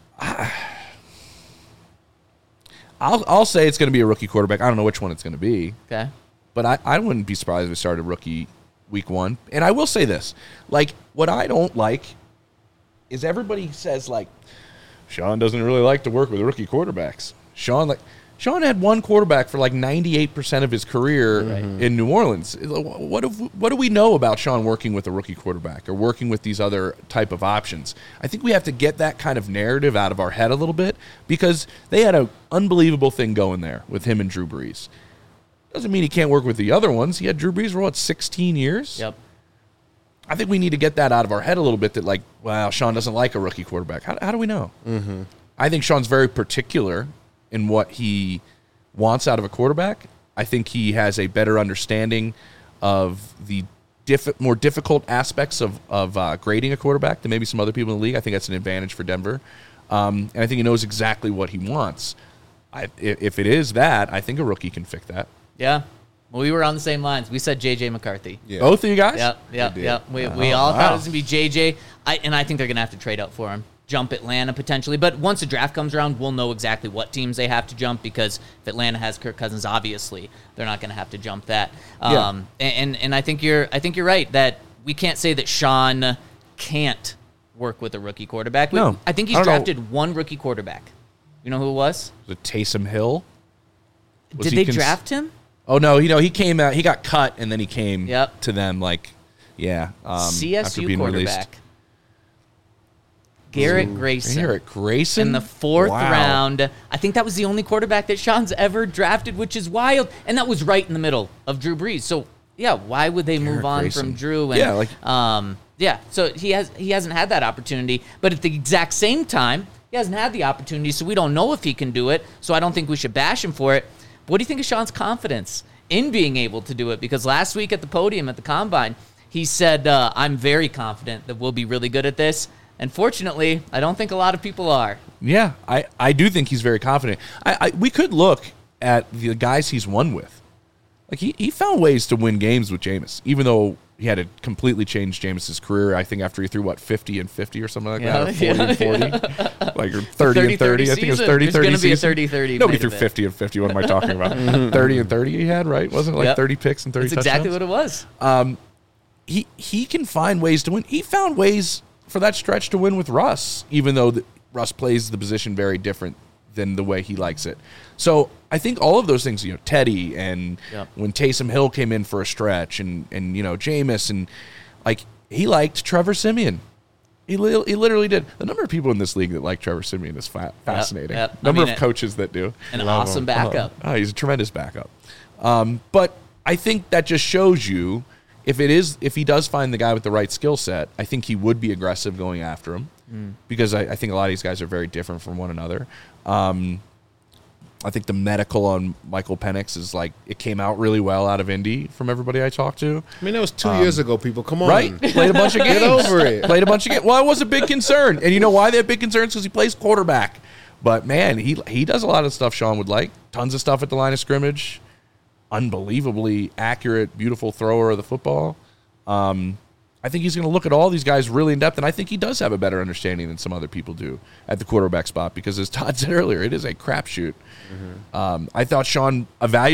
I'll say it's going to be a rookie quarterback. I don't know which one it's going to be, Okay. but I wouldn't be surprised if we started rookie week 1. And I will say this. What I don't like is everybody says, Sean doesn't really like to work with rookie quarterbacks. Sean had one quarterback for 98% of his career in New Orleans. What do we know about Sean working with a rookie quarterback or working with these other type of options? I think we have to get that kind of narrative out of our head a little bit because they had an unbelievable thing going there with him and Drew Brees. Doesn't mean he can't work with the other ones. He had Drew Brees for 16 years? Yep. I think we need to get that out of our head a little bit that wow, Sean doesn't like a rookie quarterback. How do we know? Mm-hmm. I think Sean's very particular in what he wants out of a quarterback. I think he has a better understanding of the more difficult aspects of grading a quarterback than maybe some other people in the league. I think that's an advantage for Denver. And I think he knows exactly what he wants. If it is that, I think a rookie can fix that. Yeah. Well, we were on the same lines. We said J.J. McCarthy. Yeah. Both of you guys? Yep. We all thought it was going to be J.J. And I think they're going to have to trade up for him. Jump Atlanta potentially. But once the draft comes around, we'll know exactly what teams they have to jump because if Atlanta has Kirk Cousins, obviously, they're not going to have to jump that. And I think you're right that we can't say that Sean can't work with a rookie quarterback. No. I think he's drafted one rookie quarterback. You know who it was? Was it Taysom Hill? Did they draft him? Oh no, he came out. He got cut, and then he came Yep. to them like, after CSU being released. quarterback Garrett Grayson. Garrett Grayson In the 4th Wow. round. I think that was the only quarterback that Sean's ever drafted, which is wild. And that was right in the middle of Drew Brees. So, yeah, why would they move on Grayson. from Drew? And, Yeah, so he hasn't had that opportunity. But at the exact same time, he hasn't had the opportunity, so we don't know if he can do it. So I don't think we should bash him for it. But what do you think of Sean's confidence in being able to do it? Because last week at the podium at the Combine, he said, I'm very confident that we'll be really good at this. And fortunately, I don't think a lot of people are. Yeah, I do think he's very confident. We could look at the guys he's won with. Like he found ways to win games with Jameis, even though he had to completely change Jameis's career. I think after he threw 50 and 50 or something like that, or 40 and 40, like or 30 and 30. I think it was 30 There's going to be a season. 30-30. Nobody threw 50 and 50. What am I talking about? 30 and 30 he had, right? Wasn't it like 30 picks and 30 That's touchdowns? exactly what it was. He can find ways to win. He found ways for that stretch to win with Russ, even though Russ plays the position very different than the way he likes it. So I think all of those things, Teddy and when Taysom Hill came in for a stretch and Jameis and like he liked Trevor Siemian. He literally did. The number of people in this league that like Trevor Siemian is fascinating. Yep. Number of coaches that do. An awesome backup. Oh, he's a tremendous backup. But I think that just shows you if he does find the guy with the right skill set, I think he would be aggressive going after him because I think a lot of these guys are very different from one another. I think the medical on Michael Penix is like it came out really well out of Indy from everybody I talked to. I mean, that was 2 years ago, people. Come on. Right? Played a bunch of games. Get over it. Played a bunch of games. Well, it was a big concern. And you know why they have big concerns? Because he plays quarterback. But, man, he does a lot of stuff Sean would like. Tons of stuff at the line of scrimmage. Unbelievably accurate, beautiful thrower of the football. I think he's going to look at all these guys really in depth, and I think he does have a better understanding than some other people do at the quarterback spot because, as Todd said earlier, it is a crapshoot. I thought Sean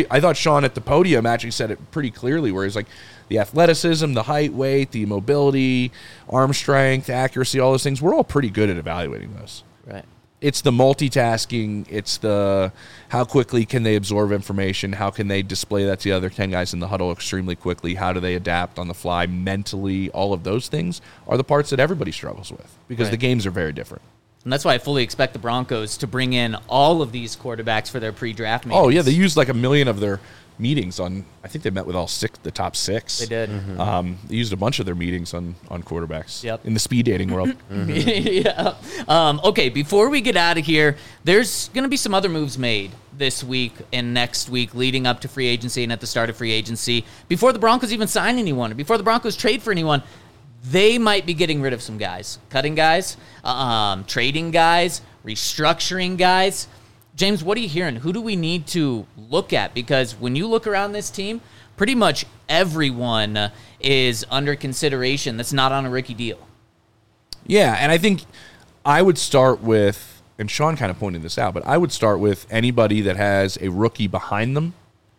at the podium actually said it pretty clearly, where he's like, the athleticism, the height, weight, the mobility, arm strength, accuracy, all those things. We're all pretty good at evaluating those. Right. It's the multitasking. It's the how quickly can they absorb information? How can they display that to the other 10 guys in the huddle extremely quickly? How do they adapt on the fly mentally? All of those things are the parts that everybody struggles with because the games are very different. And that's why I fully expect the Broncos to bring in all of these quarterbacks for their pre-draft meetings. Oh, yeah. They used like 1 million of their meetings on, I think they met with all the top 6. They did. They used a bunch of their meetings on quarterbacks Yep. in the speed dating world. Yeah. Okay, before we get out of here, there's going to be some other moves made this week and next week leading up to free agency and at the start of free agency. Before the Broncos even sign anyone, or before the Broncos trade for anyone, they might be getting rid of some guys. Cutting guys, trading guys, restructuring guys. James, what are you hearing? Who do we need to look at? Because when you look around this team, pretty much everyone is under consideration that's not on a rookie deal. Yeah, and I think I would start with, and Sean kind of pointed this out, but I would start with anybody that has a rookie behind them.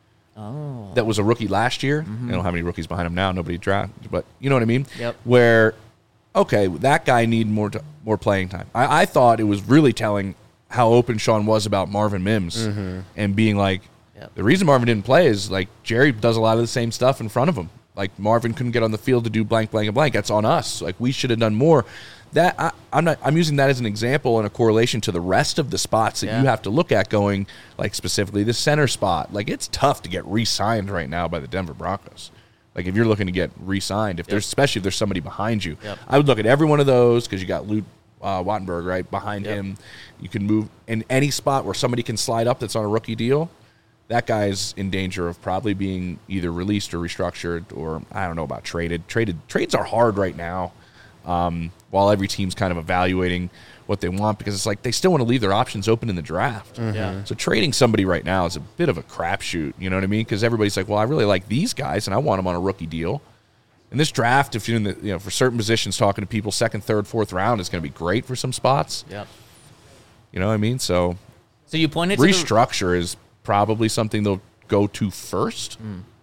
Oh. That was a rookie last year. They don't have any rookies behind him now. Nobody drafted, but you know what I mean? Yep. Where, okay, that guy need more playing time. I thought it was really telling how open Sean was about Marvin Mims and being like, the reason Marvin didn't play is like Jerry does a lot of the same stuff in front of him. Like Marvin couldn't get on the field to do blank, blank, and blank. That's on us. Like we should have done more. That I'm using that as an example and a correlation to the rest of the spots that you have to look at going, like specifically the center spot. Like it's tough to get re-signed right now by the Denver Broncos. Like if you're looking to get re-signed, especially if there's somebody behind you, I would look at every one of those because you got Luke Wattenberg right behind him. You can move in any spot where somebody can slide up that's on a rookie deal. That guy's in danger of probably being either released or restructured, or I don't know about traded. Trades are hard right now, while every team's kind of evaluating what they want because it's like they still want to leave their options open in the draft. So trading somebody right now is a bit of a crapshoot. You know what I mean? Because everybody's like, well, I really like these guys and I want them on a rookie deal. In this draft, if you're in the, for certain positions, talking to people, 2nd, 3rd, 4th round is going to be great for some spots. Yep. You know what I mean? So you pointed restructure is probably something they'll go to first.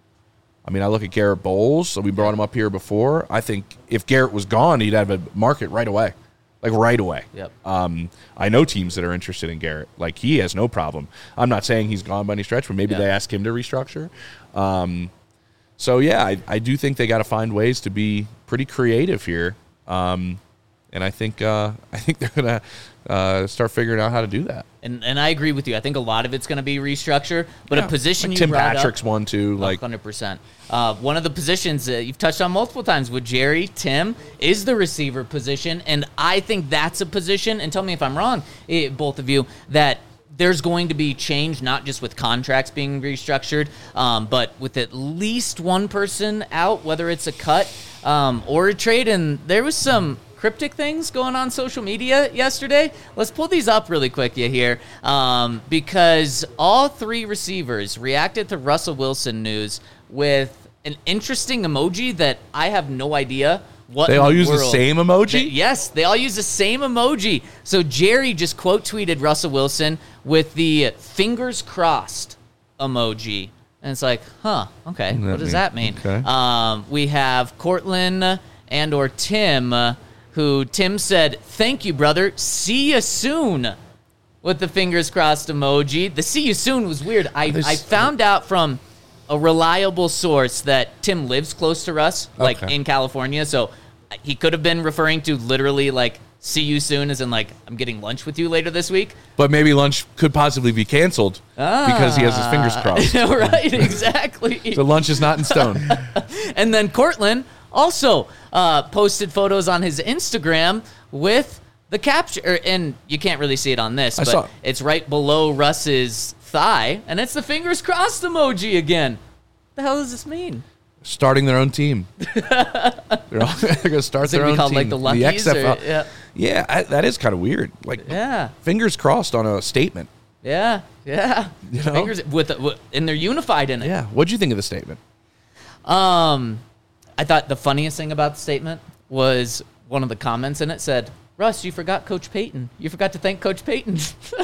I mean, I look at Garrett Bowles. So we brought him up here before. I think if Garrett was gone, he'd have a market right away. like right away. Yep. I know teams that are interested in Garrett. Like, he has no problem. I'm not saying he's gone by any stretch, but maybe they ask him to restructure. So, yeah, I do think they got to find ways to be pretty creative here. And I think they're going to start figuring out how to do that. And I agree with you. I think a lot of it's going to be restructure, but a position like you Tim brought Patrick's up, one too. Like 100%. One of the positions that you've touched on multiple times with Jerry, Tim, is the receiver position, and I think that's a position. And tell me if I'm wrong, both of you, that there's going to be change, not just with contracts being restructured, but with at least one person out, whether it's a cut or a trade. And there was some cryptic things going on social media yesterday. Let's pull these up really quick here, because all three receivers reacted to Russell Wilson news with an interesting emoji that I have no idea what they all use the world. same emoji? Yes, they all use the same emoji. So Jerry just quote tweeted Russell Wilson with the fingers crossed emoji. And it's like, okay, what does that mean? Okay. We have Cortland and or Tim, who Tim said, "Thank you, brother. See you soon," with the fingers crossed emoji. The "see you soon" was weird. I found out from a reliable source that Tim lives close to Russ, like in California, so he could have been referring to literally like "see you soon" as in like I'm getting lunch with you later this week. But maybe lunch could possibly be canceled because he has his fingers crossed. Right, exactly. So lunch is not in stone. And then Cortland also posted photos on his Instagram with the capture, and you can't really see it on this, but it's right below Russ's thigh, and it's the fingers crossed emoji again. What the hell does this mean? Starting their own team. They're going to start their own called team. Like the Luckies, XFL. Yeah, that is kind of weird. Like, fingers crossed on a statement. Yeah. You know? Fingers and they're unified in it. Yeah. What'd you think of the statement? I thought the funniest thing about the statement was one of the comments in it said, "Russ, you forgot Coach Payton. You forgot to thank Coach Payton."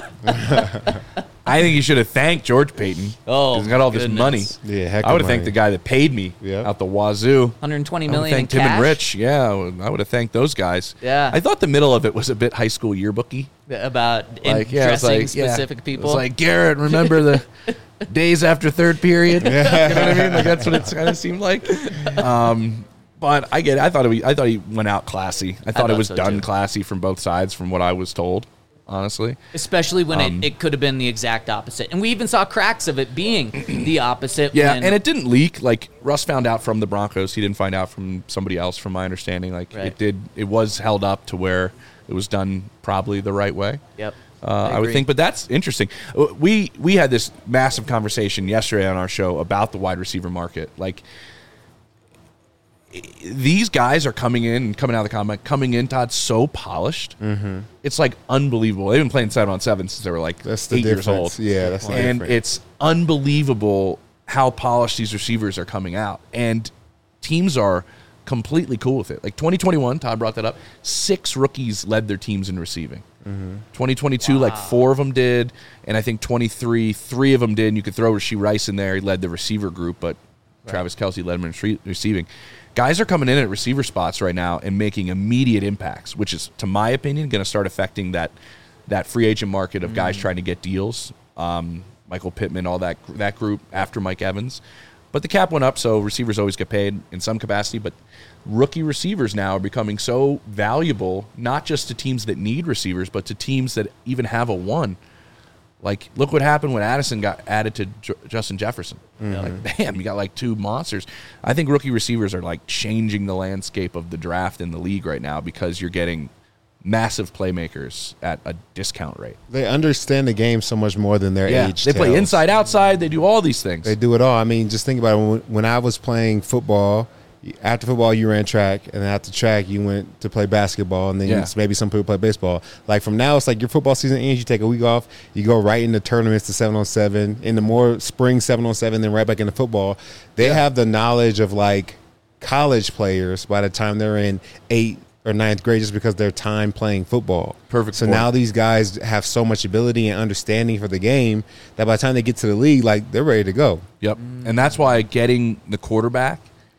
I think you should have thanked George Payton. Oh, he's got all this money. Yeah, heck I would of have thanked money. the guy that paid me out the wazoo. $120 I million would in thank Tim cash. and Rich. Yeah, I would have thanked those guys. Yeah. I thought the middle of it was a bit high school yearbooky. About Dressing specific people. It was like, Garrett, remember the days after third period? You know what I mean? Like, that's what it kind of seemed like. But I get it. I thought he went out classy. I thought it was so done too. classy from both sides, from what I was told, honestly. Especially when it could have been the exact opposite. And we even saw cracks of it being the opposite. Yeah, when, and it didn't leak. Like, Russ found out from the Broncos. He didn't find out from somebody else, from my understanding. Like, it was held up to where it was done probably the right way. Yep. I would think, but that's interesting. We had this massive conversation yesterday on our show about the wide receiver market. Like, these guys are coming out of the combine, Todd, so polished. Mm-hmm. It's like unbelievable. They've been playing 7-on-7 since they were like 8 years old. Yeah, that's the and difference. it's unbelievable how polished these receivers are coming out. And teams are completely cool with it. Like 2021, Todd brought that up. 6 rookies led their teams in receiving. 2022, like 4 of them did, and I think 23, 3 of them did. And you could throw Rashee Rice in there. He led the receiver group, but Travis Kelce led him in receiving. Guys are coming in at receiver spots right now and making immediate impacts, which is, to my opinion, going to start affecting that free agent market of guys trying to get deals. Michael Pittman, all that group after Mike Evans. But the cap went up, so receivers always get paid in some capacity. But rookie receivers now are becoming so valuable, not just to teams that need receivers, but to teams that even have a one. Like, look what happened when Addison got added to Justin Jefferson. Like, bam, you got like 2 monsters. I think rookie receivers are like changing the landscape of the draft in the league right now because you're getting massive playmakers at a discount rate. They understand the game so much more than their age. They play tells. inside, outside. They do all these things. They do it all. I mean, just think about it. When I was playing football, after football you ran track, and then after track you went to play basketball, and then maybe some people play baseball. Like, from now, it's like your football season ends, you take a week off, you go right into tournaments to 7-on-7, in the more spring 7-on-7, then right back into football. They have the knowledge of like college players by the time they're in 8th or 9th grade, just because their time playing football. Perfect. So point. now these guys have so much ability and understanding for the game that by the time they get to the league, like, they're ready to go. Yep. And that's why getting the quarterback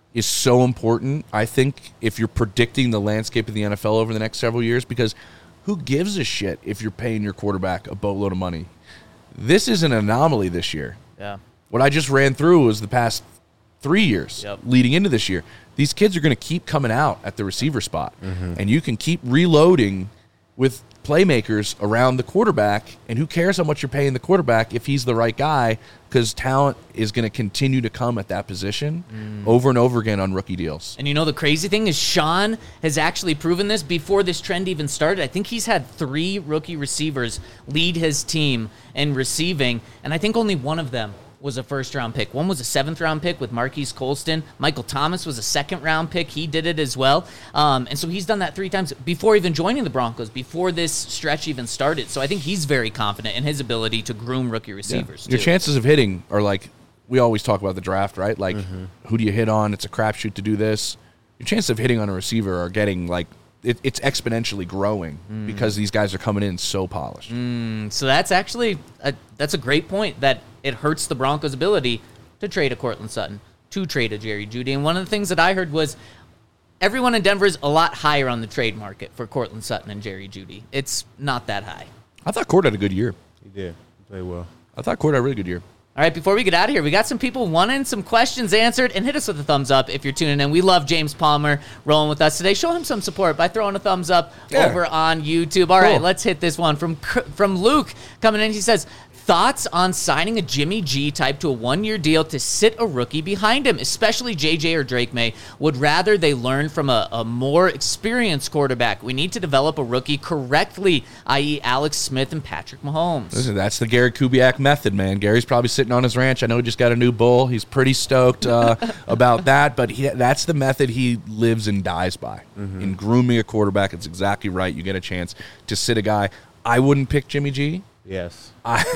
is so important, I think, if you're predicting the landscape of the NFL over the next several years, because who gives a shit if you're paying your quarterback a boatload of money? This is an anomaly this year. Yeah. What I just ran through was the past 3 years Yep. leading into this year. These kids are going to keep coming out at the receiver spot, and you can keep reloading with playmakers around the quarterback, and who cares how much you're paying the quarterback if he's the right guy, because talent is going to continue to come at that position over and over again on rookie deals. And you know the crazy thing is Sean has actually proven this before this trend even started. I think he's had 3 rookie receivers lead his team in receiving, and I think only one of them was a first-round pick. One was a 7th-round pick with Marquise Colston. Michael Thomas was a 2nd-round pick. He did it as well. And so he's done that 3 times before even joining the Broncos, before this stretch even started. So I think he's very confident in his ability to groom rookie receivers, Your too. chances of hitting are like, we always talk about the draft, right? Like, who do you hit on? It's a crapshoot to do this. Your chances of hitting on a receiver are getting, like, it's exponentially growing because these guys are coming in so polished. So that's actually that's a great point, that it hurts the Broncos' ability to trade a Courtland Sutton, to trade a Jerry Jeudy. And one of the things that I heard was everyone in Denver is a lot higher on the trade market for Courtland Sutton and Jerry Jeudy. It's not that high. I thought Cord had a good year. He did. He played well. I thought Cord had a really good year. All right, before we get out of here, we got some people wanting some questions answered, and hit us with a thumbs up if you're tuning in. We love James Palmer rolling with us today. Show him some support by throwing a thumbs up over on YouTube. All right, let's hit this one from Luke coming in. He says, thoughts on signing a Jimmy G type to a 1-year deal to sit a rookie behind him, especially JJ or Drake May. Would rather they learn from a more experienced quarterback. We need to develop a rookie correctly, i.e. Alex Smith and Patrick Mahomes. Listen, that's the Gary Kubiak method, man. Gary's probably sitting on his ranch. I know he just got a new bull. He's pretty stoked about that, but that's the method he lives and dies by. In grooming a quarterback, it's exactly right. You get a chance to sit a guy. I wouldn't pick Jimmy G. Yes.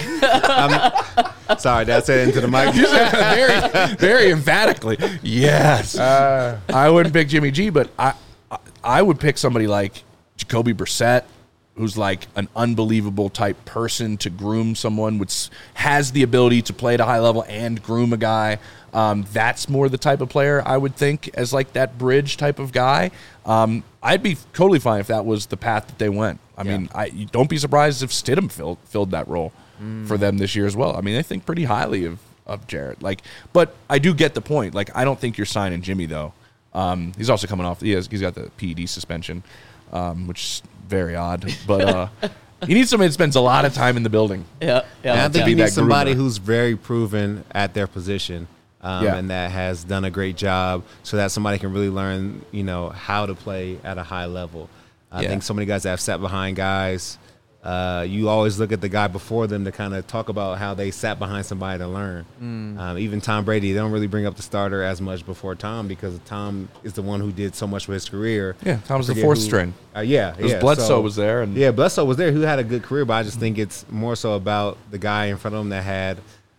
Sorry, did I say it into the mic? very, very emphatically. Yes. I wouldn't pick Jimmy G, but I would pick somebody like Jacoby Brissett, who's like an unbelievable type person to groom someone, which has the ability to play at a high level and groom a guy. That's more the type of player I would think as like that bridge type of guy. I'd be totally fine if that was the path that they went. I mean, you don't be surprised if Stidham filled that role for them this year as well. I mean, they think pretty highly of Jarrett. But I do get the point. Like, I don't think you're signing Jimmy though. He's also coming off. He's got the PED suspension, which is very odd. But he needs somebody that spends a lot of time in the building. Yeah. And I think be you that need somebody groomer. who's very proven at their position. And that has done a great job, so that somebody can really learn, how to play at a high level. I think so many guys that have sat behind guys, you always look at the guy before them to kind of talk about how they sat behind somebody to learn. Even Tom Brady, they don't really bring up the starter as much before Tom, because Tom is the one who did so much with his career. Yeah, Tom was the fourth string. Bledsoe was there. And Bledsoe was there, who had a good career, but I just think it's more so about the guy in front of him that had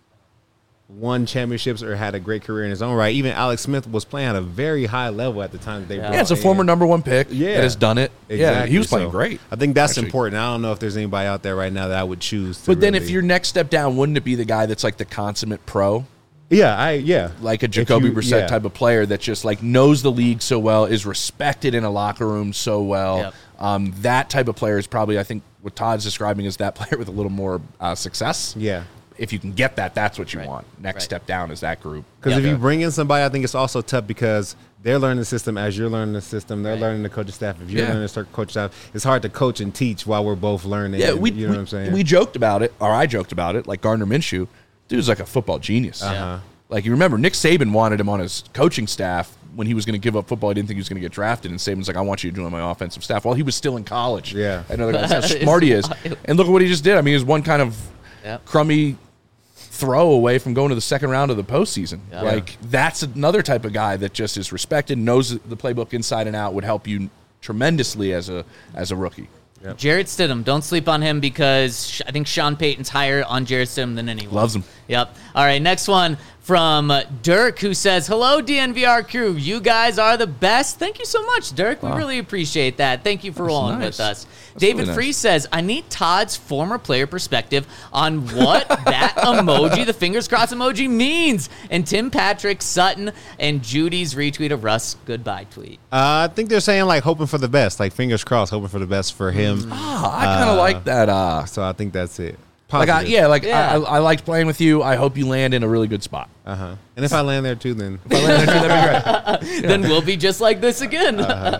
won championships or had a great career in his own right. Even Alex Smith was playing at a very high level at the time that they brought it's a in. former number 1 pick that has done it. Exactly. Yeah, he was playing So, great. I think that's actually important. I don't know if there's anybody out there right now that I would choose. But then if your next step down, wouldn't it be the guy that's like the consummate pro? Like a Jacoby Brissett type of player that just like knows the league so well, is respected in a locker room so well. That type of player is probably, I think, what Todd's describing is that player with a little more success. Yeah. If you can get that, that's what you want. Next step down is that group. Because if you bring in somebody, I think it's also tough because they're learning the system as you're learning the system. They're learning the coaching staff. If you're learning the coaching staff, it's hard to coach and teach while we're both learning. Yeah, you know what I'm saying? We joked about it, or I joked about it, like Gardner Minshew. Dude's like a football genius. Like, you remember, Nick Saban wanted him on his coaching staff when he was going to give up football. He didn't think he was going to get drafted, and Saban's like, I want you to join my offensive staff. While he was still in college. Yeah. Another guy, that's how smart he is. And look at what he just did. I mean, he was one kind of crummy throw away from going to the second round of the postseason. Like, that's another type of guy that just is respected, knows the playbook inside and out, would help you tremendously as a rookie. Jarrett Stidham, don't sleep on him, because I think Sean Payton's higher on Jarrett Stidham than anyone. Loves him. Yep. All right, next one from Dirk, who says, hello, DNVR crew. You guys are the best. Thank you so much, Dirk. We really appreciate that. Thank you for rolling nice. with us. That's David really nice. Free says, I need Todd's former player perspective on what that emoji, the fingers crossed emoji, means. And Tim Patrick, Sutton, and Judy's retweet of Russ' goodbye tweet. I think they're saying like hoping for the best, like fingers crossed, hoping for the best for him. I kind of like that. So I think that's it. Like, Positive. Yeah. I liked playing with you. I hope you land in a really good spot. And if I land there too, then If I land there too, that'd be great. Then we'll be just like this again.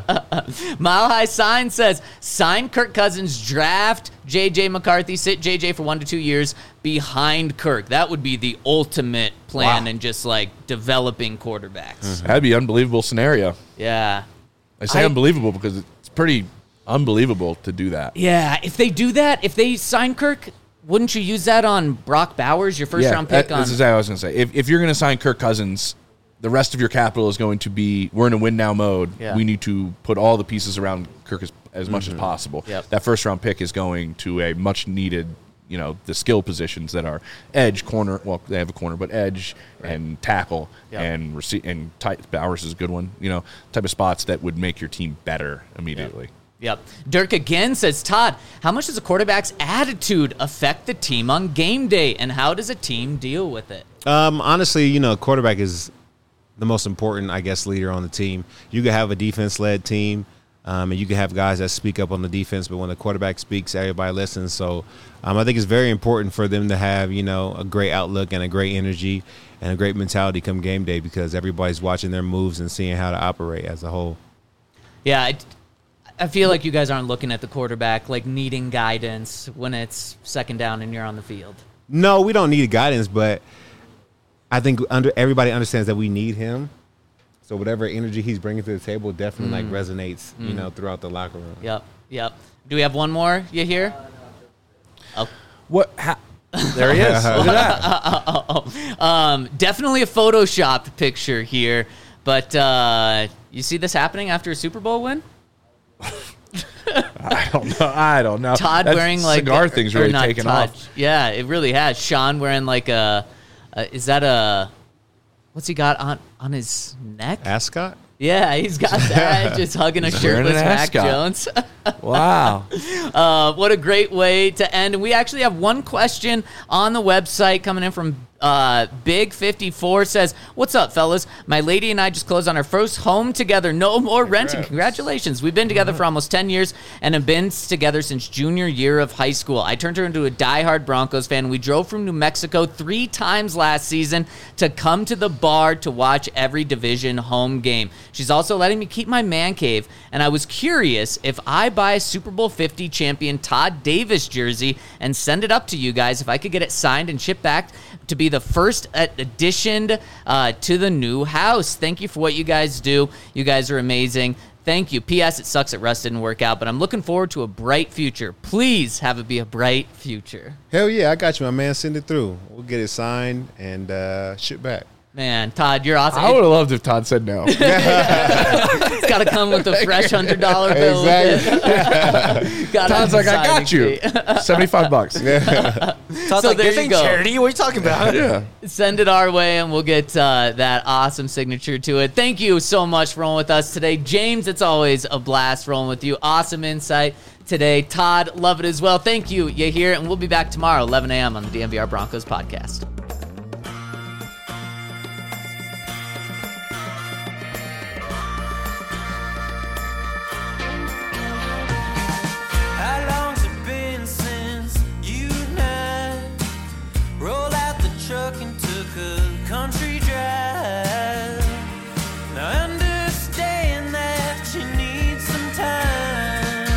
Mile High Sign says, sign Kirk Cousins, draft J.J. McCarthy, sit J.J. for 1 to 2 years behind Kirk. That would be the ultimate plan in just like developing quarterbacks. That'd be an unbelievable scenario. Yeah. I say unbelievable because it's pretty unbelievable to do that. Yeah, if they do that, if they sign Kirk, wouldn't you use that on Brock Bowers, your first round pick? This is what I was going to say. If you're going to sign Kirk Cousins, the rest of your capital is going to be, we're in a win now mode. Yeah. We need to put all the pieces around Kirk as much as possible. Yep. That first round pick is going to a much needed, the skill positions that are edge, corner. Well, they have a corner, but edge and tackle and and tight. Bowers is a good one. Type of spots that would make your team better immediately. Yep. Dirk again says, Todd, how much does a quarterback's attitude affect the team on game day, and how does a team deal with it? honestly, quarterback is the most important, I guess, leader on the team. You could have a defense-led team, and you can have guys that speak up on the defense, but when the quarterback speaks, everybody listens. So I think it's very important for them to have, a great outlook and a great energy and a great mentality come game day, because everybody's watching their moves and seeing how to operate as a whole. Yeah, I feel like you guys aren't looking at the quarterback like needing guidance when it's second down and you're on the field. No, we don't need guidance, but I think everybody understands that we need him. So whatever energy he's bringing to the table definitely resonates, throughout the locker room. Yep. Do we have one more? You hear? Oh. What? There he is. Look at that. Definitely a photoshopped picture here, but you see this happening after a Super Bowl win? I don't know. Todd wearing like cigar thing's or really not taken Todd. off. Yeah, it really has. Sean wearing like is that a what's he got on his neck? Ascot? Yeah, he's got that. Just hugging a He's wearing shirtless an Mac ascot. Jones. Wow. What a great way to end. And we actually have one question on the website coming in from Big54 says, what's up, fellas? My lady and I just closed on our first home together. No more renting. Congratulations. We've been together for almost 10 years and have been together since junior year of high school. I turned her into a diehard Broncos fan. We drove from New Mexico 3 times last season to come to the bar to watch every division home game. She's also letting me keep my man cave, and I was curious if I buy a Super Bowl 50 champion Todd Davis jersey and send it up to you guys, if I could get it signed and shipped back to be the first addition to the new house. Thank you for what you guys do. You guys are amazing. Thank you. P.S. It sucks that Russ didn't work out, but I'm looking forward to a bright future. Please have it be a bright future. Hell yeah, I got you, my man. Send it through. We'll get it signed and ship back. Man, Todd, you're awesome. I would have loved if Todd said no. It's got to come with a fresh $100 bill. Exactly. Todd's like, I got you. $75. Todd's So like, there this you ain't go. charity. What are you talking about? Yeah. Send it our way, and we'll get that awesome signature to it. Thank you so much for rolling with us today. James, it's always a blast rolling with you. Awesome insight today. Todd, love it as well. Thank you. You hear it, and we'll be back tomorrow, 11 a.m. on the DNVR Broncos podcast. How long's it been since you and I rolled out the truck and took a country drive? Now I understand that you need some time.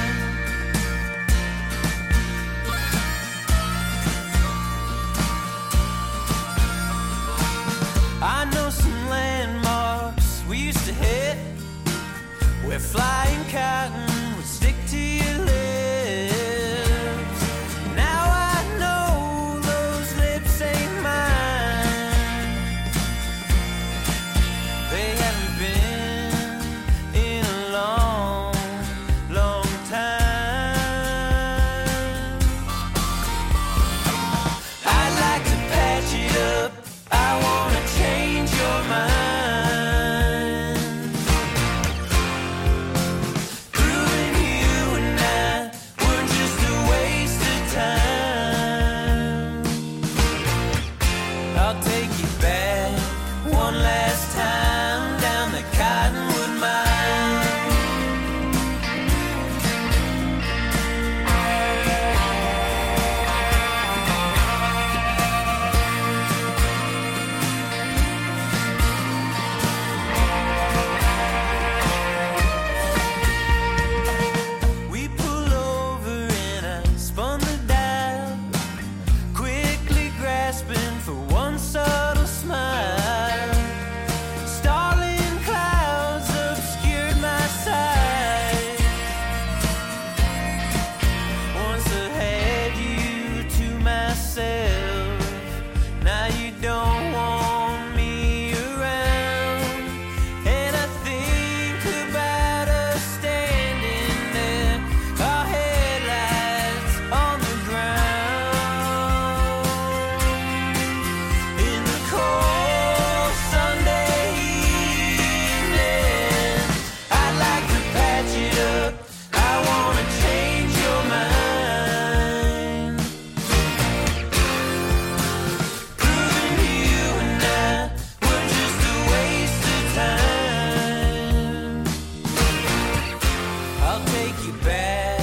take you back.